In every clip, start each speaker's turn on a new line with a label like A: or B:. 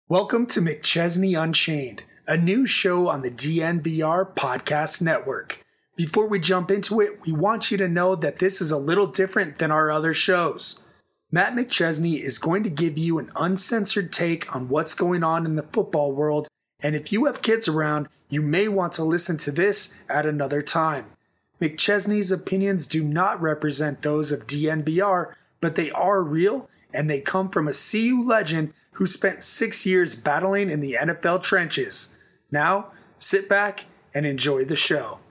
A: Welcome to McChesney Unchained, a new show on the DNVR Podcast Network. Before we jump into it, we want you to know that this is a little different than our other shows. Matt McChesney is going to give you an uncensored take on what's going on in the football world, and if you have kids around, you may want to listen to this at another time. McChesney's opinions do not represent those of DNVR, but they are real, and they come from a CU legend who spent 6 years battling in the NFL trenches. Now, sit back and enjoy the show.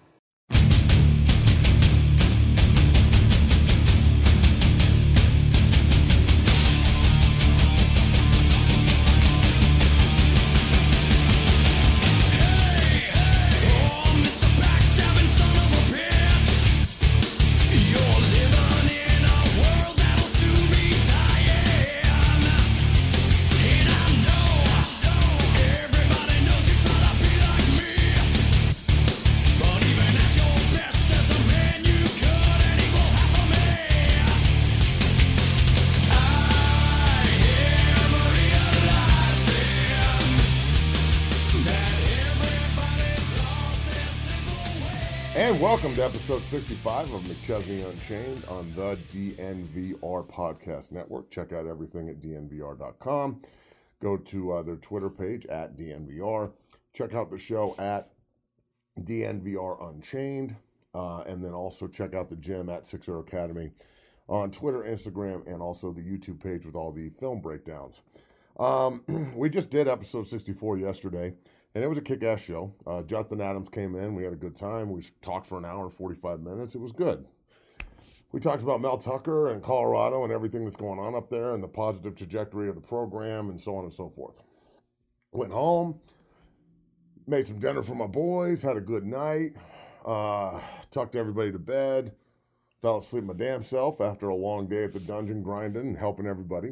B: And welcome to episode 65 of McChesney Unchained on the DNVR Podcast Network. Check out everything at dnvr.com. Go to their Twitter page at DNVR. Check out the show at DNVR Unchained. And then also check out the gym at 60 Academy on Twitter, Instagram, and also the YouTube page with all the film breakdowns. We just did episode 64 yesterday. And it was a kick-ass show. Justin Adams came in. We had a good time. We talked for an hour and 45 minutes. It was good. We talked about Mel Tucker and Colorado and everything that's going on up there and the positive trajectory of the program and so on and so forth. Went home, made some dinner for my boys, had a good night, tucked everybody to bed, fell asleep my damn self after a long day at the dungeon grinding and helping everybody.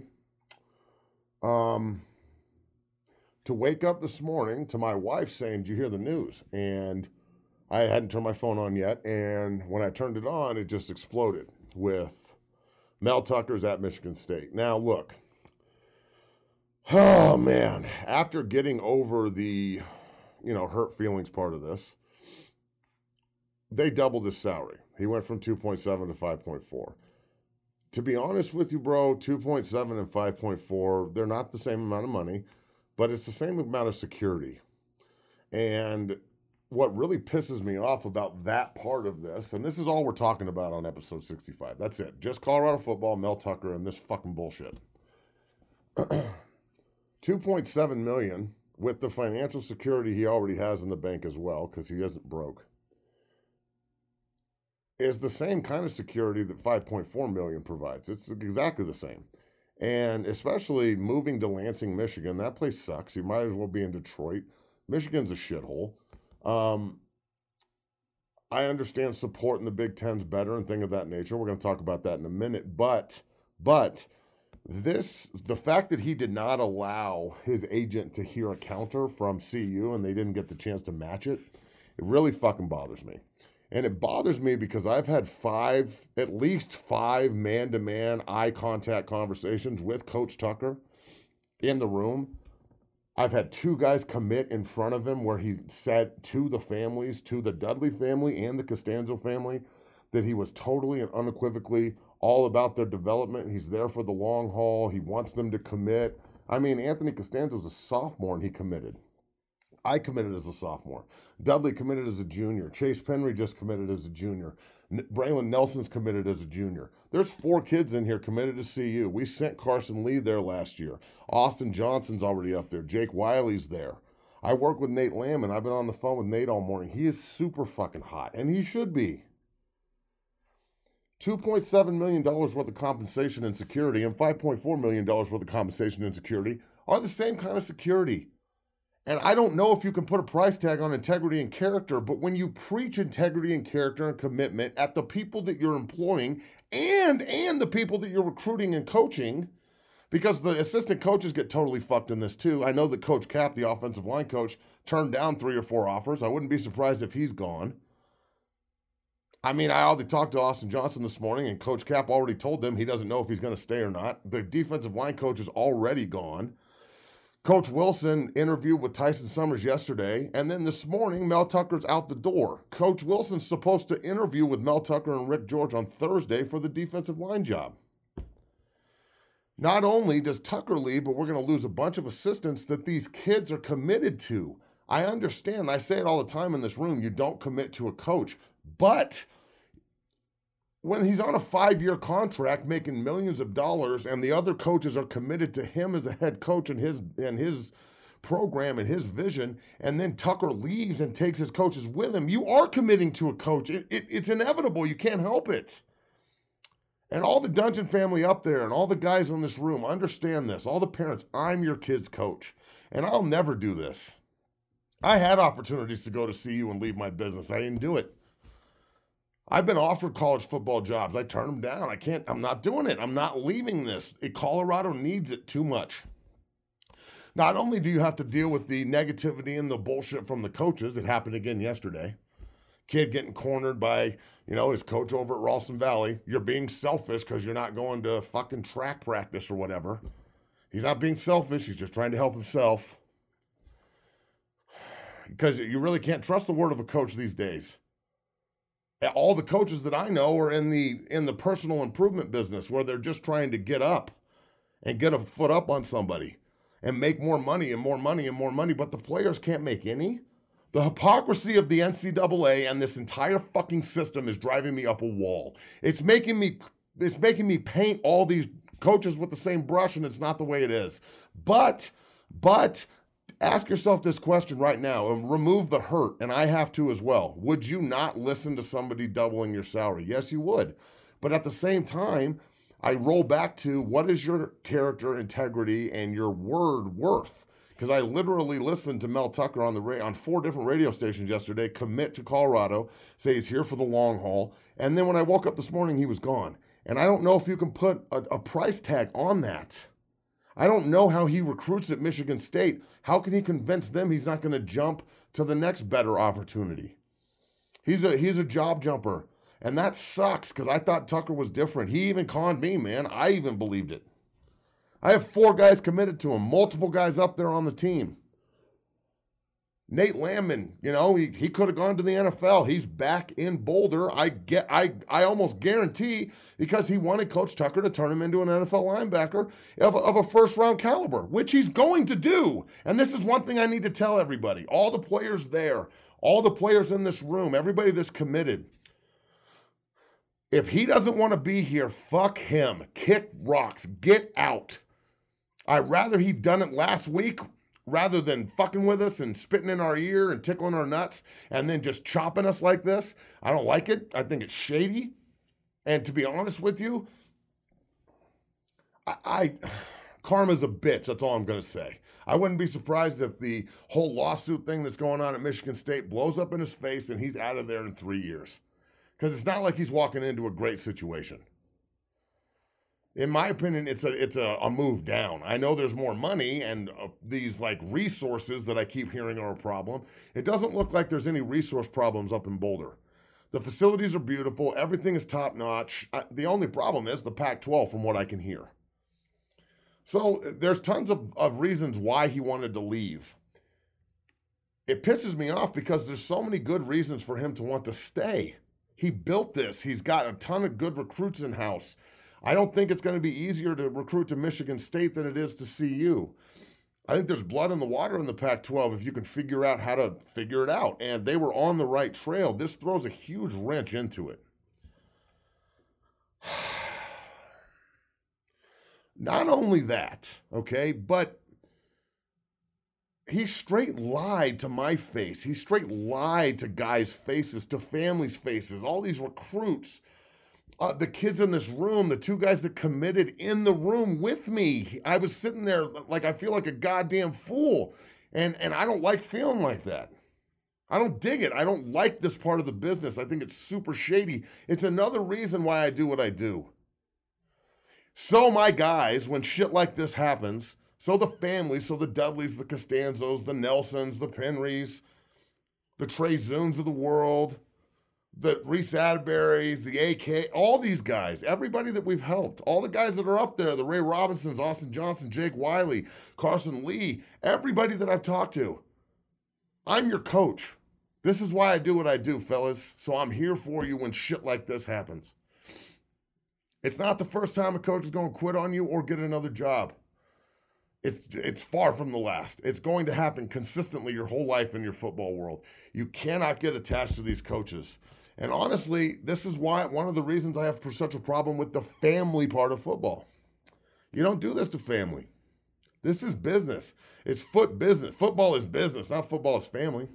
B: To wake up this morning to my wife saying, "Did you hear the news?" And I hadn't turned my phone on yet. And when I turned it on, it just exploded with Mel Tucker's at Michigan State. Now, look. Oh, man. After getting over the, hurt feelings part of this, they doubled his salary. He went from 2.7 to 5.4. To be honest with you, bro, 2.7 and 5.4, they're not the same amount of money. But it's the same amount of security. And what really pisses me off about that part of this, and this is all we're talking about on episode 65. That's it. Just Colorado football, Mel Tucker, and this fucking bullshit. $2.7 million with the financial security he already has in the bank as well, because he isn't broke, is the same kind of security that $5.4 million provides. It's exactly the same. And especially moving to Lansing, Michigan, that place sucks. You might as well be in Detroit. Michigan's a shithole. I understand supporting the Big Ten's better and things of that nature. We're going to talk about that in a minute. But the fact that he did not allow his agent to hear a counter from CU and they didn't get the chance to match it, it really fucking bothers me. And it bothers me because I've had at least five man-to-man eye contact conversations with Coach Tucker in the room. I've had two guys commit in front of him where he said to the families, to the Dudley family and the Costanzo family, that he was totally and unequivocally all about their development. He's there for the long haul. He wants them to commit. I mean, Anthony Costanzo's a sophomore and he committed. I committed as a sophomore. Dudley committed as a junior. Chase Penry just committed as a junior. Braylon Nelson's committed as a junior. There's 4 kids in here committed to CU. We sent Carson Lee there last year. Austin Johnson's already up there. Jake Wiley's there. I work with Nate Lamb, and I've been on the phone with Nate all morning. He is super fucking hot, and he should be. $2.7 million worth of compensation and security and $5.4 million worth of compensation and security are the same kind of security. And I don't know if you can put a price tag on integrity and character, but when you preach integrity and character and commitment at the people that you're employing and the people that you're recruiting and coaching, because the assistant coaches get totally fucked in this too. I know that Coach Cap, the offensive line coach, turned down 3 or 4 offers. I wouldn't be surprised if he's gone. I mean, I already talked to Austin Johnson this morning, and Coach Cap already told them he doesn't know if he's going to stay or not. The defensive line coach is already gone. Coach Wilson interviewed with Tyson Summers yesterday, and then this morning, Mel Tucker's out the door. Coach Wilson's supposed to interview with Mel Tucker and Rick George on Thursday for the defensive line job. Not only does Tucker leave, but we're going to lose a bunch of assistants that these kids are committed to. I understand, I say it all the time in this room, you don't commit to a coach, but when he's on a 5-year contract making millions of dollars and the other coaches are committed to him as a head coach and his program and his vision, and then Tucker leaves and takes his coaches with him, you are committing to a coach. It's inevitable. You can't help it. And all the Dungeon family up there and all the guys in this room understand this. All the parents, I'm your kid's coach, and I'll never do this. I had opportunities to go to CU and leave my business. I didn't do it. I've been offered college football jobs. I turned them down. I'm not doing it. I'm not leaving this. Colorado needs it too much. Not only do you have to deal with the negativity and the bullshit from the coaches, it happened again yesterday. Kid getting cornered by, his coach over at Ralston Valley. You're being selfish because you're not going to fucking track practice or whatever. He's not being selfish. He's just trying to help himself. Because you really can't trust the word of a coach these days. All the coaches that I know are in the personal improvement business where they're just trying to get up and get a foot up on somebody and make more money and more money and more money, but the players can't make any. The hypocrisy of the NCAA and this entire fucking system is driving me up a wall. It's making me paint all these coaches with the same brush, and it's not the way it is. But ask yourself this question right now and remove the hurt, and I have to as well. Would you not listen to somebody doubling your salary? Yes, you would. But at the same time, I roll back to what is your character integrity and your word worth? Because I literally listened to Mel Tucker on 4 different radio stations yesterday commit to Colorado, say he's here for the long haul, and then when I woke up this morning, he was gone. And I don't know if you can put a price tag on that. I don't know how he recruits at Michigan State. How can he convince them he's not going to jump to the next better opportunity? He's a job jumper, and that sucks because I thought Tucker was different. He even conned me, man. I even believed it. I have 4 guys committed to him, multiple guys up there on the team. Nate Landman, he could have gone to the NFL. He's back in Boulder. I almost guarantee because he wanted Coach Tucker to turn him into an NFL linebacker of a first-round caliber, which he's going to do. And this is one thing I need to tell everybody. All the players there, all the players in this room, everybody that's committed. If he doesn't want to be here, fuck him. Kick rocks. Get out. I'd rather he'd done it last week rather than fucking with us and spitting in our ear and tickling our nuts and then just chopping us like this. I don't like it. I think it's shady. And to be honest with you, karma's a bitch. That's all I'm going to say. I wouldn't be surprised if the whole lawsuit thing that's going on at Michigan State blows up in his face and he's out of there in 3 years. Because it's not like he's walking into a great situation. In my opinion, it's a move down. I know there's more money and these resources that I keep hearing are a problem. It doesn't look like there's any resource problems up in Boulder. The facilities are beautiful. Everything is top notch. The only problem is the Pac-12 from what I can hear. So there's tons of reasons why he wanted to leave. It pisses me off because there's so many good reasons for him to want to stay. He built this. He's got a ton of good recruits in-house. I don't think it's going to be easier to recruit to Michigan State than it is to CU. I think there's blood in the water in the Pac-12 if you can figure out how to figure it out. And they were on the right trail. This throws a huge wrench into it. Not only that, okay, but he straight lied to my face. He straight lied to guys' faces, to families' faces, all these recruits. The kids in this room, the 2 guys that committed in the room with me. I was sitting there I feel like a goddamn fool. And I don't like feeling like that. I don't dig it. I don't like this part of the business. I think it's super shady. It's another reason why I do what I do. So my guys, when shit like this happens, so the families, so the Dudleys, the Costanzos, the Nelsons, the Penrys, the Trey Zunes of the world, the Reese Atterberries, the AK, all these guys, everybody that we've helped, all the guys that are up there, the Ray Robinsons, Austin Johnson, Jake Wiley, Carson Lee, everybody that I've talked to. I'm your coach. This is why I do what I do, fellas. So I'm here for you when shit like this happens. It's not the first time a coach is going to quit on you or get another job. It's far from the last. It's going to happen consistently your whole life in your football world. You cannot get attached to these coaches. And honestly, this is why one of the reasons I have such a problem with the family part of football. You don't do this to family. This is business. It's business. Football is business, not football is family.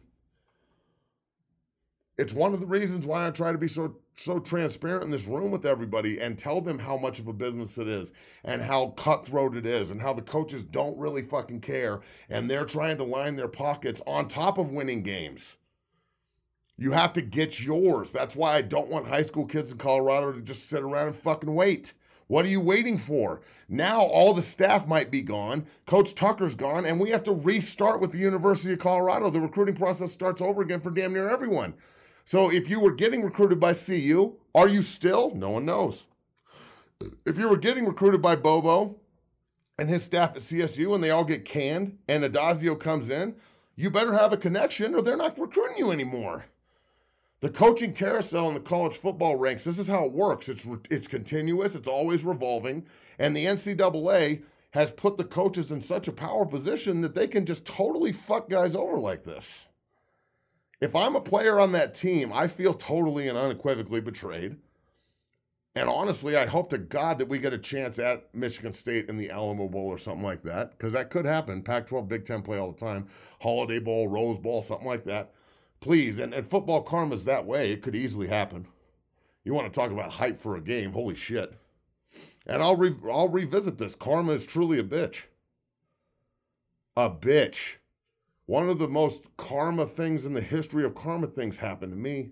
B: It's one of the reasons why I try to be so transparent in this room with everybody and tell them how much of a business it is and how cutthroat it is and how the coaches don't really fucking care and they're trying to line their pockets on top of winning games. You have to get yours. That's why I don't want high school kids in Colorado to just sit around and fucking wait. What are you waiting for? Now all the staff might be gone. Coach Tucker's gone, and we have to restart with the University of Colorado. The recruiting process starts over again for damn near everyone. So if you were getting recruited by CU, are you still? No one knows. If you were getting recruited by Bobo and his staff at CSU and they all get canned and Adazio comes in, you better have a connection or they're not recruiting you anymore. The coaching carousel in the college football ranks, this is how it works. It's continuous. It's always revolving. And the NCAA has put the coaches in such a power position that they can just totally fuck guys over like this. If I'm a player on that team, I feel totally and unequivocally betrayed. And honestly, I hope to God that we get a chance at Michigan State in the Alamo Bowl or something like that, because that could happen. Pac-12, Big Ten play all the time. Holiday Bowl, Rose Bowl, something like that. Please, and football karma's that way. It could easily happen. You want to talk about hype for a game, holy shit. And I'll revisit this. Karma is truly a bitch. A bitch. One of the most karma things in the history of karma things happened to me.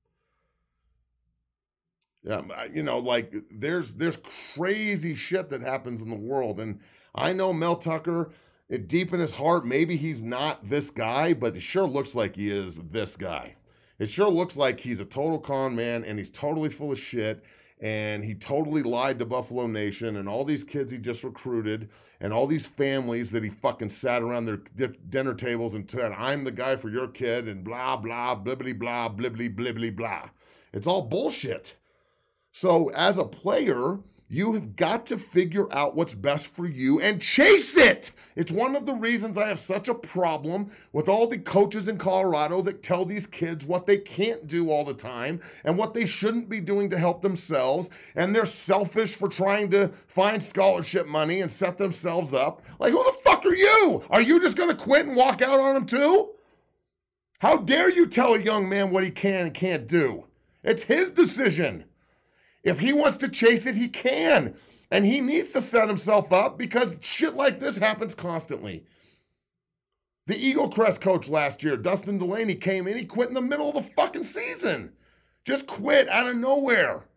B: Yeah, you know, like there's crazy shit that happens in the world. And I know Mel Tucker, deep in his heart, maybe he's not this guy, but it sure looks like he is this guy. It sure looks like he's a total con man and he's totally full of shit. And he totally lied to Buffalo Nation and all these kids he just recruited and all these families that he fucking sat around their dinner tables and said, I'm the guy for your kid and blah, blah, blibbly, blah, blibbly, blibbly, blah. It's all bullshit. So as a player, you have got to figure out what's best for you and chase it. It's one of the reasons I have such a problem with all the coaches in Colorado that tell these kids what they can't do all the time and what they shouldn't be doing to help themselves. And they're selfish for trying to find scholarship money and set themselves up. Like, who the fuck are you? Are you just going to quit and walk out on them too? How dare you tell a young man what he can and can't do? It's his decision. If he wants to chase it, he can. And he needs to set himself up because shit like this happens constantly. The Eagle Crest coach last year, Dustin Delaney, came in. He quit in the middle of the fucking season. Just quit out of nowhere.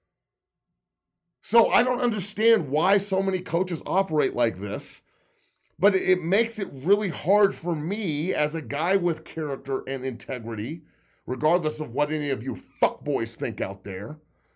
B: So I don't understand why so many coaches operate like this. But it makes it really hard for me as a guy with character and integrity, regardless of what any of you fuckboys think out there.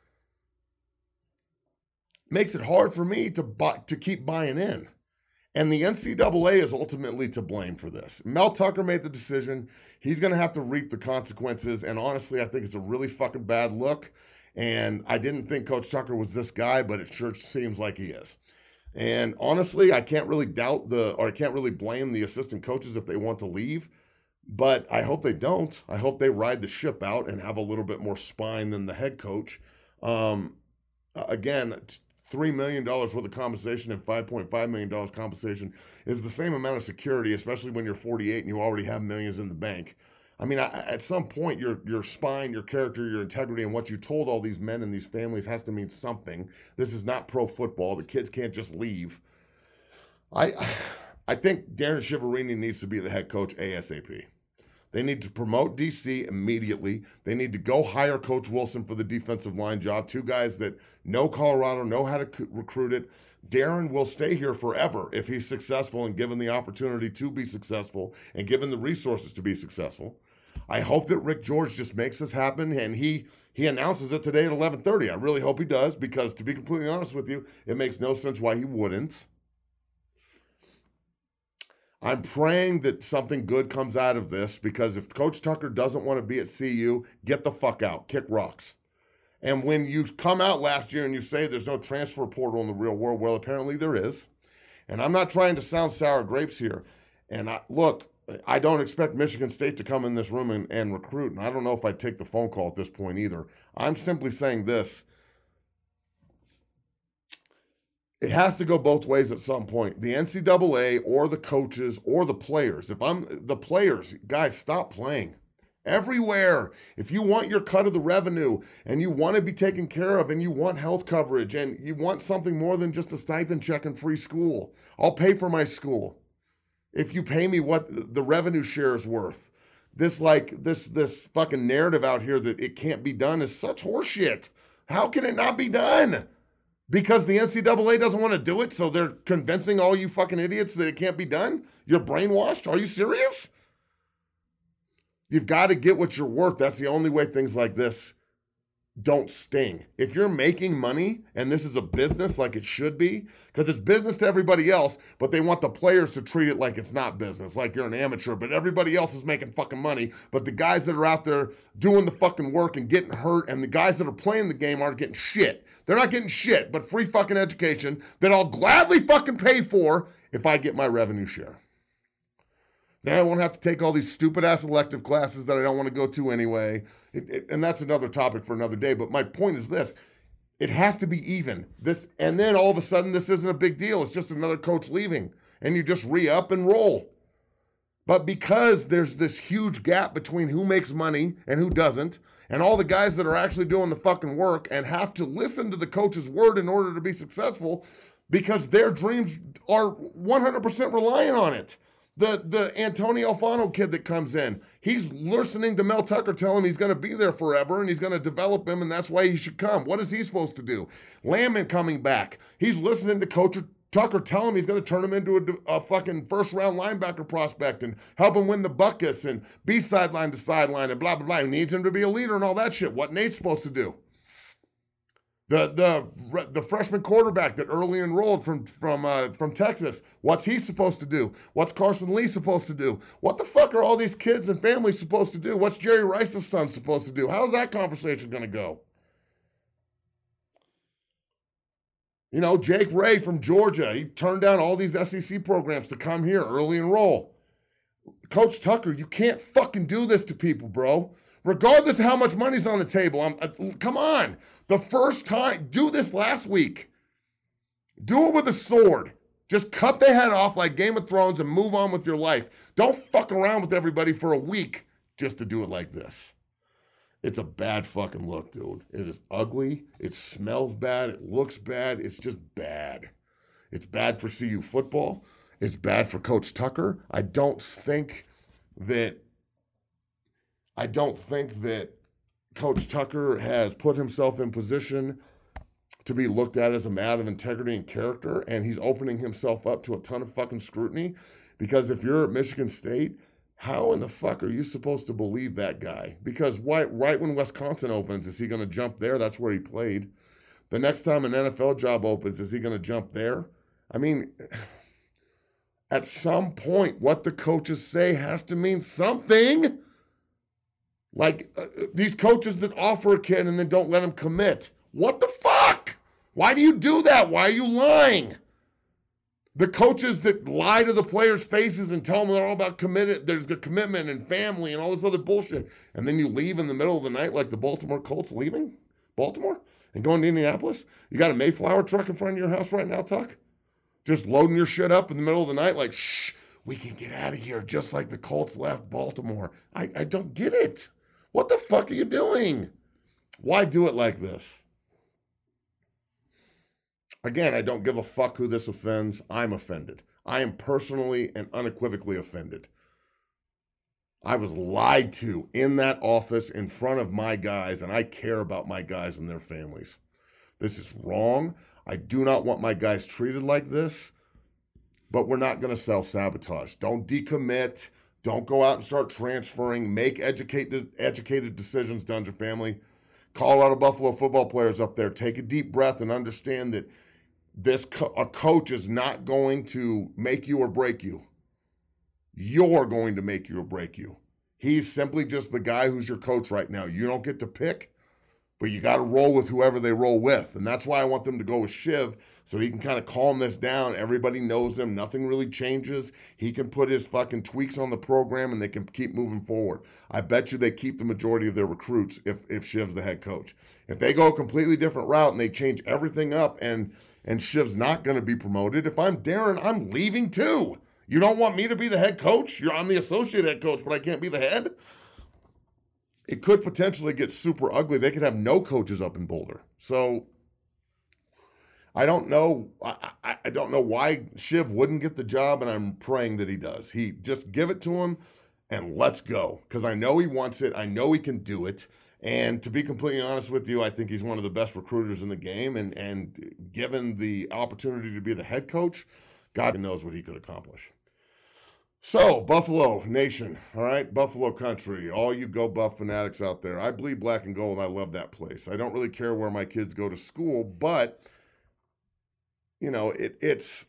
B: Makes it hard for me to keep buying in. And the NCAA is ultimately to blame for this. Mel Tucker made the decision. He's going to have to reap the consequences. And honestly, I think it's a really fucking bad look. And I didn't think Coach Tucker was this guy, but it sure seems like he is. And honestly, I can't really I can't really blame the assistant coaches if they want to leave. But I hope they don't. I hope they ride the ship out and have a little bit more spine than the head coach. Again, $3 million worth of compensation and $5.5 million compensation is the same amount of security, especially when you're 48 and you already have millions in the bank. I mean, at some point, your spine, your character, your integrity, and what you told all these men and these families has to mean something. This is not pro football. The kids can't just leave. I think Darren Shiverini needs to be the head coach ASAP. They need to promote DC immediately. They need to go hire Coach Wilson for the defensive line job. Two guys that know Colorado, know how to recruit it. Darren will stay here forever if he's successful and given the opportunity to be successful and given the resources to be successful. I hope that Rick George just makes this happen, and he announces it today at 11:30. I really hope he does, because to be completely honest with you, it makes no sense why he wouldn't. I'm praying that something good comes out of this, because if Coach Tucker doesn't want to be at CU, get the fuck out, kick rocks. And when you come out last year and you say there's no transfer portal in the real world, well, apparently there is. And I'm not trying to sound sour grapes here. And I don't expect Michigan State to come in this room and recruit. And I don't know if I'd take the phone call at this point either. I'm simply saying this. It has to go both ways at some point. The NCAA or the coaches or the players. If I'm the players, guys, stop playing. Everywhere. If you want your cut of the revenue and you want to be taken care of and you want health coverage and you want something more than just a stipend check and free school, I'll pay for my school. If you pay me what the revenue share is worth. This fucking narrative out here that it can't be done is such horseshit. How can it not be done? Because the NCAA doesn't want to do it, so they're convincing all you fucking idiots that it can't be done? You're brainwashed? Are you serious? You've got to get what you're worth. That's the only way things like this don't sting. If you're making money and this is a business like it should be, because it's business to everybody else, but they want the players to treat it like it's not business, like you're an amateur, but everybody else is making fucking money, but the guys that are out there doing the fucking work and getting hurt and the guys that are playing the game aren't getting shit. They're not getting shit, but free fucking education that I'll gladly fucking pay for if I get my revenue share. Then I won't have to take all these stupid-ass elective classes that I don't want to go to anyway. And that's another topic for another day. But my point is this. It has to be even. And then all of a sudden, this isn't a big deal. It's just another coach leaving. And you just re-up and roll. But because there's this huge gap between who makes money and who doesn't, and all the guys that are actually doing the fucking work and have to listen to the coach's word in order to be successful, because their dreams are 100% reliant on it. The Antonio Alfano kid that comes in, he's listening to Mel Tucker tell him he's going to be there forever and he's going to develop him and that's why he should come. What is he supposed to do? Landman coming back. He's listening to Coach Tucker tell him he's going to turn him into a fucking first-round linebacker prospect and help him win the buckets and be sideline to sideline and blah, blah, blah. He needs him to be a leader and all that shit. What Nate's supposed to do? The freshman quarterback that early enrolled from Texas, what's he supposed to do? What's Carson Lee supposed to do? What the fuck are all these kids and families supposed to do? What's Jerry Rice's son supposed to do? How's that conversation going to go? You know, Jake Ray from Georgia, he turned down all these SEC programs to come here, early enroll. Coach Tucker, you can't fucking do this to people, bro. Regardless of how much money's on the table, come on. The first time, do this last week. Do it with a sword. Just cut the head off like Game of Thrones and move on with your life. Don't fuck around with everybody for a week just to do it like this. It's a bad fucking look, dude. It is ugly. It smells bad. It looks bad. It's just bad. It's bad for CU football. It's bad for Coach Tucker. I don't think that Coach Tucker has put himself in position to be looked at as a man of integrity and character, and he's opening himself up to a ton of fucking scrutiny, because if you're at Michigan State, how in the fuck are you supposed to believe that guy? Because right when Wisconsin opens, is he going to jump there? That's where he played. The next time an NFL job opens, is he going to jump there? I mean, at some point, what the coaches say has to mean something. Like these coaches that offer a kid and then don't let him commit. What the fuck? Why do you do that? Why are you lying? The coaches that lie to the players' faces and tell them they're all about committed, there's the commitment and family and all this other bullshit. And then you leave in the middle of the night like the Baltimore Colts leaving Baltimore and going to Indianapolis. You got a Mayflower truck in front of your house right now, Tuck? Just loading your shit up in the middle of the night like, shh, we can get out of here just like the Colts left Baltimore. I don't get it. What the fuck are you doing? Why do it like this? Again, I don't give a fuck who this offends. I'm offended. I am personally and unequivocally offended. I was lied to in that office in front of my guys, and I care about my guys and their families. This is wrong. I do not want my guys treated like this, but we're not going to self-sabotage. Don't decommit. Don't go out and start transferring. Make educated decisions, Dungeon family. Colorado Buffalo football players up there, take a deep breath and understand that a coach is not going to make you or break you. You're going to make you or break you. He's simply just the guy who's your coach right now. You don't get to pick, but you got to roll with whoever they roll with. And that's why I want them to go with Shiv, so he can kind of calm this down. Everybody knows him. Nothing really changes. He can put his fucking tweaks on the program, and they can keep moving forward. I bet you they keep the majority of their recruits if Shiv's the head coach. If they go a completely different route and they change everything up and Shiv's not going to be promoted, if I'm Darren, I'm leaving too. You don't want me to be the head coach? I'm the associate head coach, but I can't be the head? It could potentially get super ugly. They could have no coaches up in Boulder. So I don't know. I don't know why Shiv wouldn't get the job, and I'm praying that he does. He just give it to him and let's go. Because I know he wants it. I know he can do it. And to be completely honest with you, I think he's one of the best recruiters in the game. And given the opportunity to be the head coach, God knows what he could accomplish. So, Buffalo Nation, all right, Buffalo country, all you Go Buff fanatics out there. I bleed black and gold. I love that place. I don't really care where my kids go to school, but, you know, it's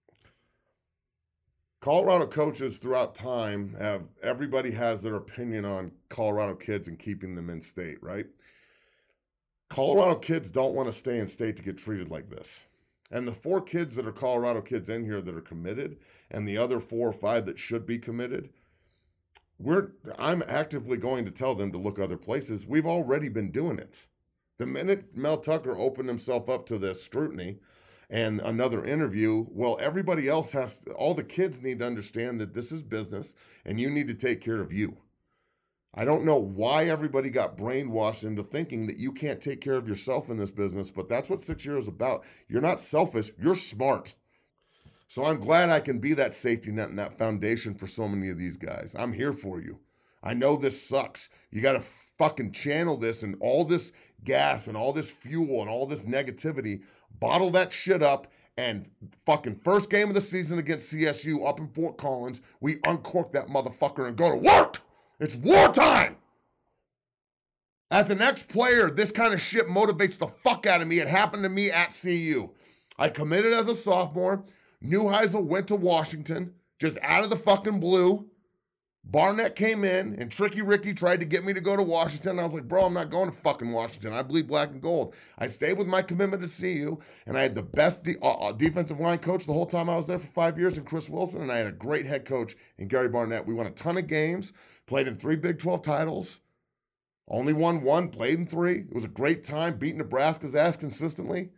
B: Colorado coaches throughout time everybody has their opinion on Colorado kids and keeping them in state, right? Colorado kids don't want to stay in state to get treated like this. And the 4 kids that are Colorado kids in here that are committed, and the other 4 or 5 that should be committed, I'm actively going to tell them to look other places. We've already been doing it. The minute Mel Tucker opened himself up to this scrutiny and another interview, well, everybody else all the kids need to understand that this is business and you need to take care of you. I don't know why everybody got brainwashed into thinking that you can't take care of yourself in this business, but that's what 6 years is about. You're not selfish, you're smart. So I'm glad I can be that safety net and that foundation for so many of these guys. I'm here for you. I know this sucks. You got to fucking channel this and all this gas and all this fuel and all this negativity, bottle that shit up, and fucking first game of the season against CSU up in Fort Collins, we uncork that motherfucker and go to work. It's wartime. As an ex-player, this kind of shit motivates the fuck out of me. It happened to me at CU. I committed as a sophomore. Neuheisel went to Washington, just out of the fucking blue. Barnett came in, and Tricky Ricky tried to get me to go to Washington. I was like, bro, I'm not going to fucking Washington. I bleed black and gold. I stayed with my commitment to CU, and I had the best defensive line coach the whole time I was there for 5 years in Chris Wilson, and I had a great head coach in Gary Barnett. We won a ton of games, played in 3 Big 12 titles, only won 1, played in 3. It was a great time, beat Nebraska's ass consistently.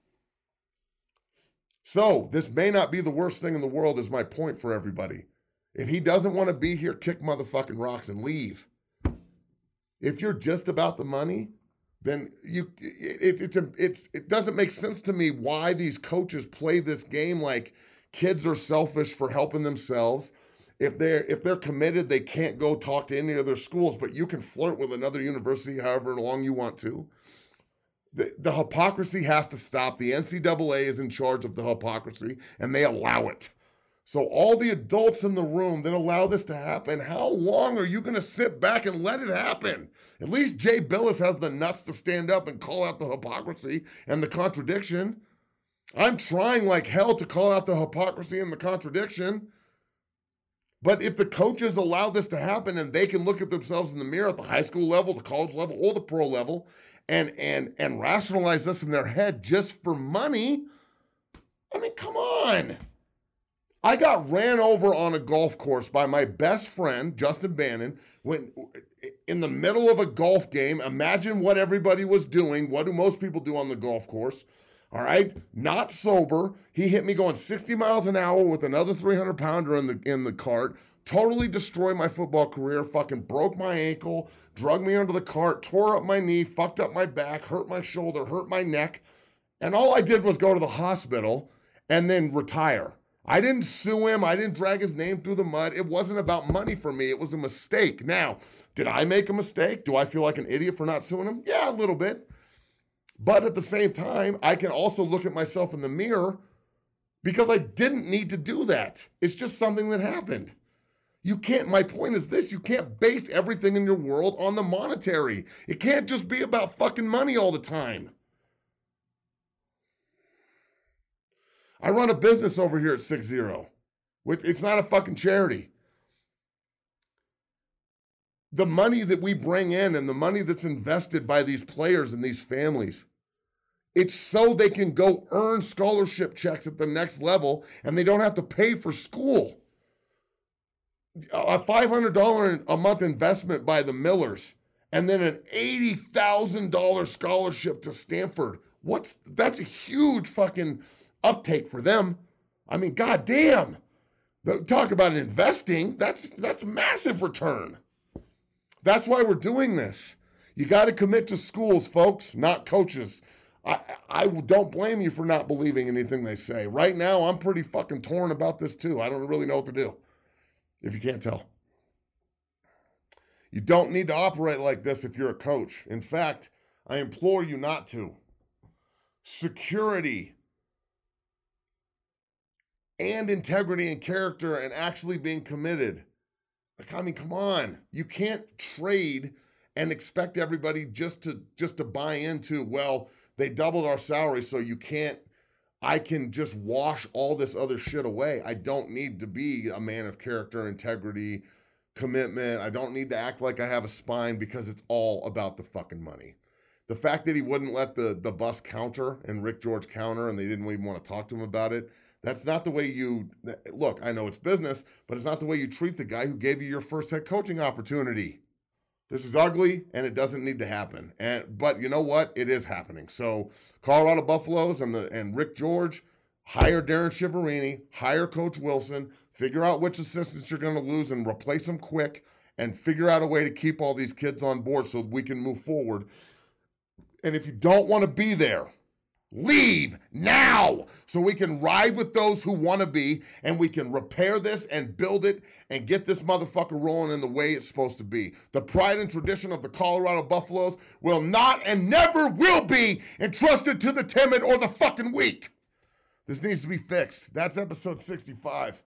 B: So this may not be the worst thing in the world is my point for everybody. If he doesn't want to be here, kick motherfucking rocks and leave. If you're just about the money, then it doesn't make sense to me why these coaches play this game like kids are selfish for helping themselves. If they're committed, they can't go talk to any other schools, but you can flirt with another university however long you want to. The hypocrisy has to stop. The NCAA is in charge of the hypocrisy, and they allow it. So all the adults in the room that allow this to happen, how long are you going to sit back and let it happen? At least Jay Billis has the nuts to stand up and call out the hypocrisy and the contradiction. I'm trying like hell to call out the hypocrisy and the contradiction. But if the coaches allow this to happen and they can look at themselves in the mirror at the high school level, the college level, or the pro level, and rationalize this in their head just for money, I mean, come on. I got ran over on a golf course by my best friend, Justin Bannon, when in the middle of a golf game. Imagine what everybody was doing. What do most people do on the golf course? All right, not sober. He hit me going 60 miles an hour with another 300-pounder in the cart. Totally destroyed my football career. Fucking broke my ankle, drug me under the cart, tore up my knee, fucked up my back, hurt my shoulder, hurt my neck. And all I did was go to the hospital and then retire. I didn't sue him. I didn't drag his name through the mud. It wasn't about money for me. It was a mistake. Now, did I make a mistake? Do I feel like an idiot for not suing him? Yeah, a little bit. But at the same time, I can also look at myself in the mirror because I didn't need to do that. It's just something that happened. You can't, my point is this, you can't base everything in your world on the monetary. It can't just be about fucking money all the time. I run a business over here at 6-0. It's not a fucking charity. The money that we bring in and the money that's invested by these players and these families, it's so they can go earn scholarship checks at the next level and they don't have to pay for school. A $500 a month investment by the Millers and then an $80,000 scholarship to Stanford. That's a huge fucking uptake for them. I mean, goddamn. Talk about investing. That's massive return. That's why we're doing this. You got to commit to schools, folks, not coaches. I don't blame you for not believing anything they say. Right now, I'm pretty fucking torn about this too. I don't really know what to do, if you can't tell. You don't need to operate like this if you're a coach. In fact, I implore you not to. Security and integrity and character and actually being committed. Like, I mean, come on. You can't trade and expect everybody just to buy into, well, they doubled our salary, so I can just wash all this other shit away. I don't need to be a man of character, integrity, commitment. I don't need to act like I have a spine because it's all about the fucking money. The fact that he wouldn't let the bus counter and Rick George counter and they didn't even want to talk to him about it, that's not the way you, look, I know it's business, but it's not the way you treat the guy who gave you your first head coaching opportunity. This is ugly, and it doesn't need to happen. But you know what? It is happening. So Colorado Buffaloes and Rick George, hire Darren Shiverini, hire Coach Wilson, figure out which assistants you're going to lose and replace them quick, and figure out a way to keep all these kids on board so we can move forward. And if you don't want to be there, leave now so we can ride with those who want to be and we can repair this and build it and get this motherfucker rolling in the way it's supposed to be. The pride and tradition of the Colorado Buffaloes will not and never will be entrusted to the timid or the fucking weak. This needs to be fixed. That's episode 65.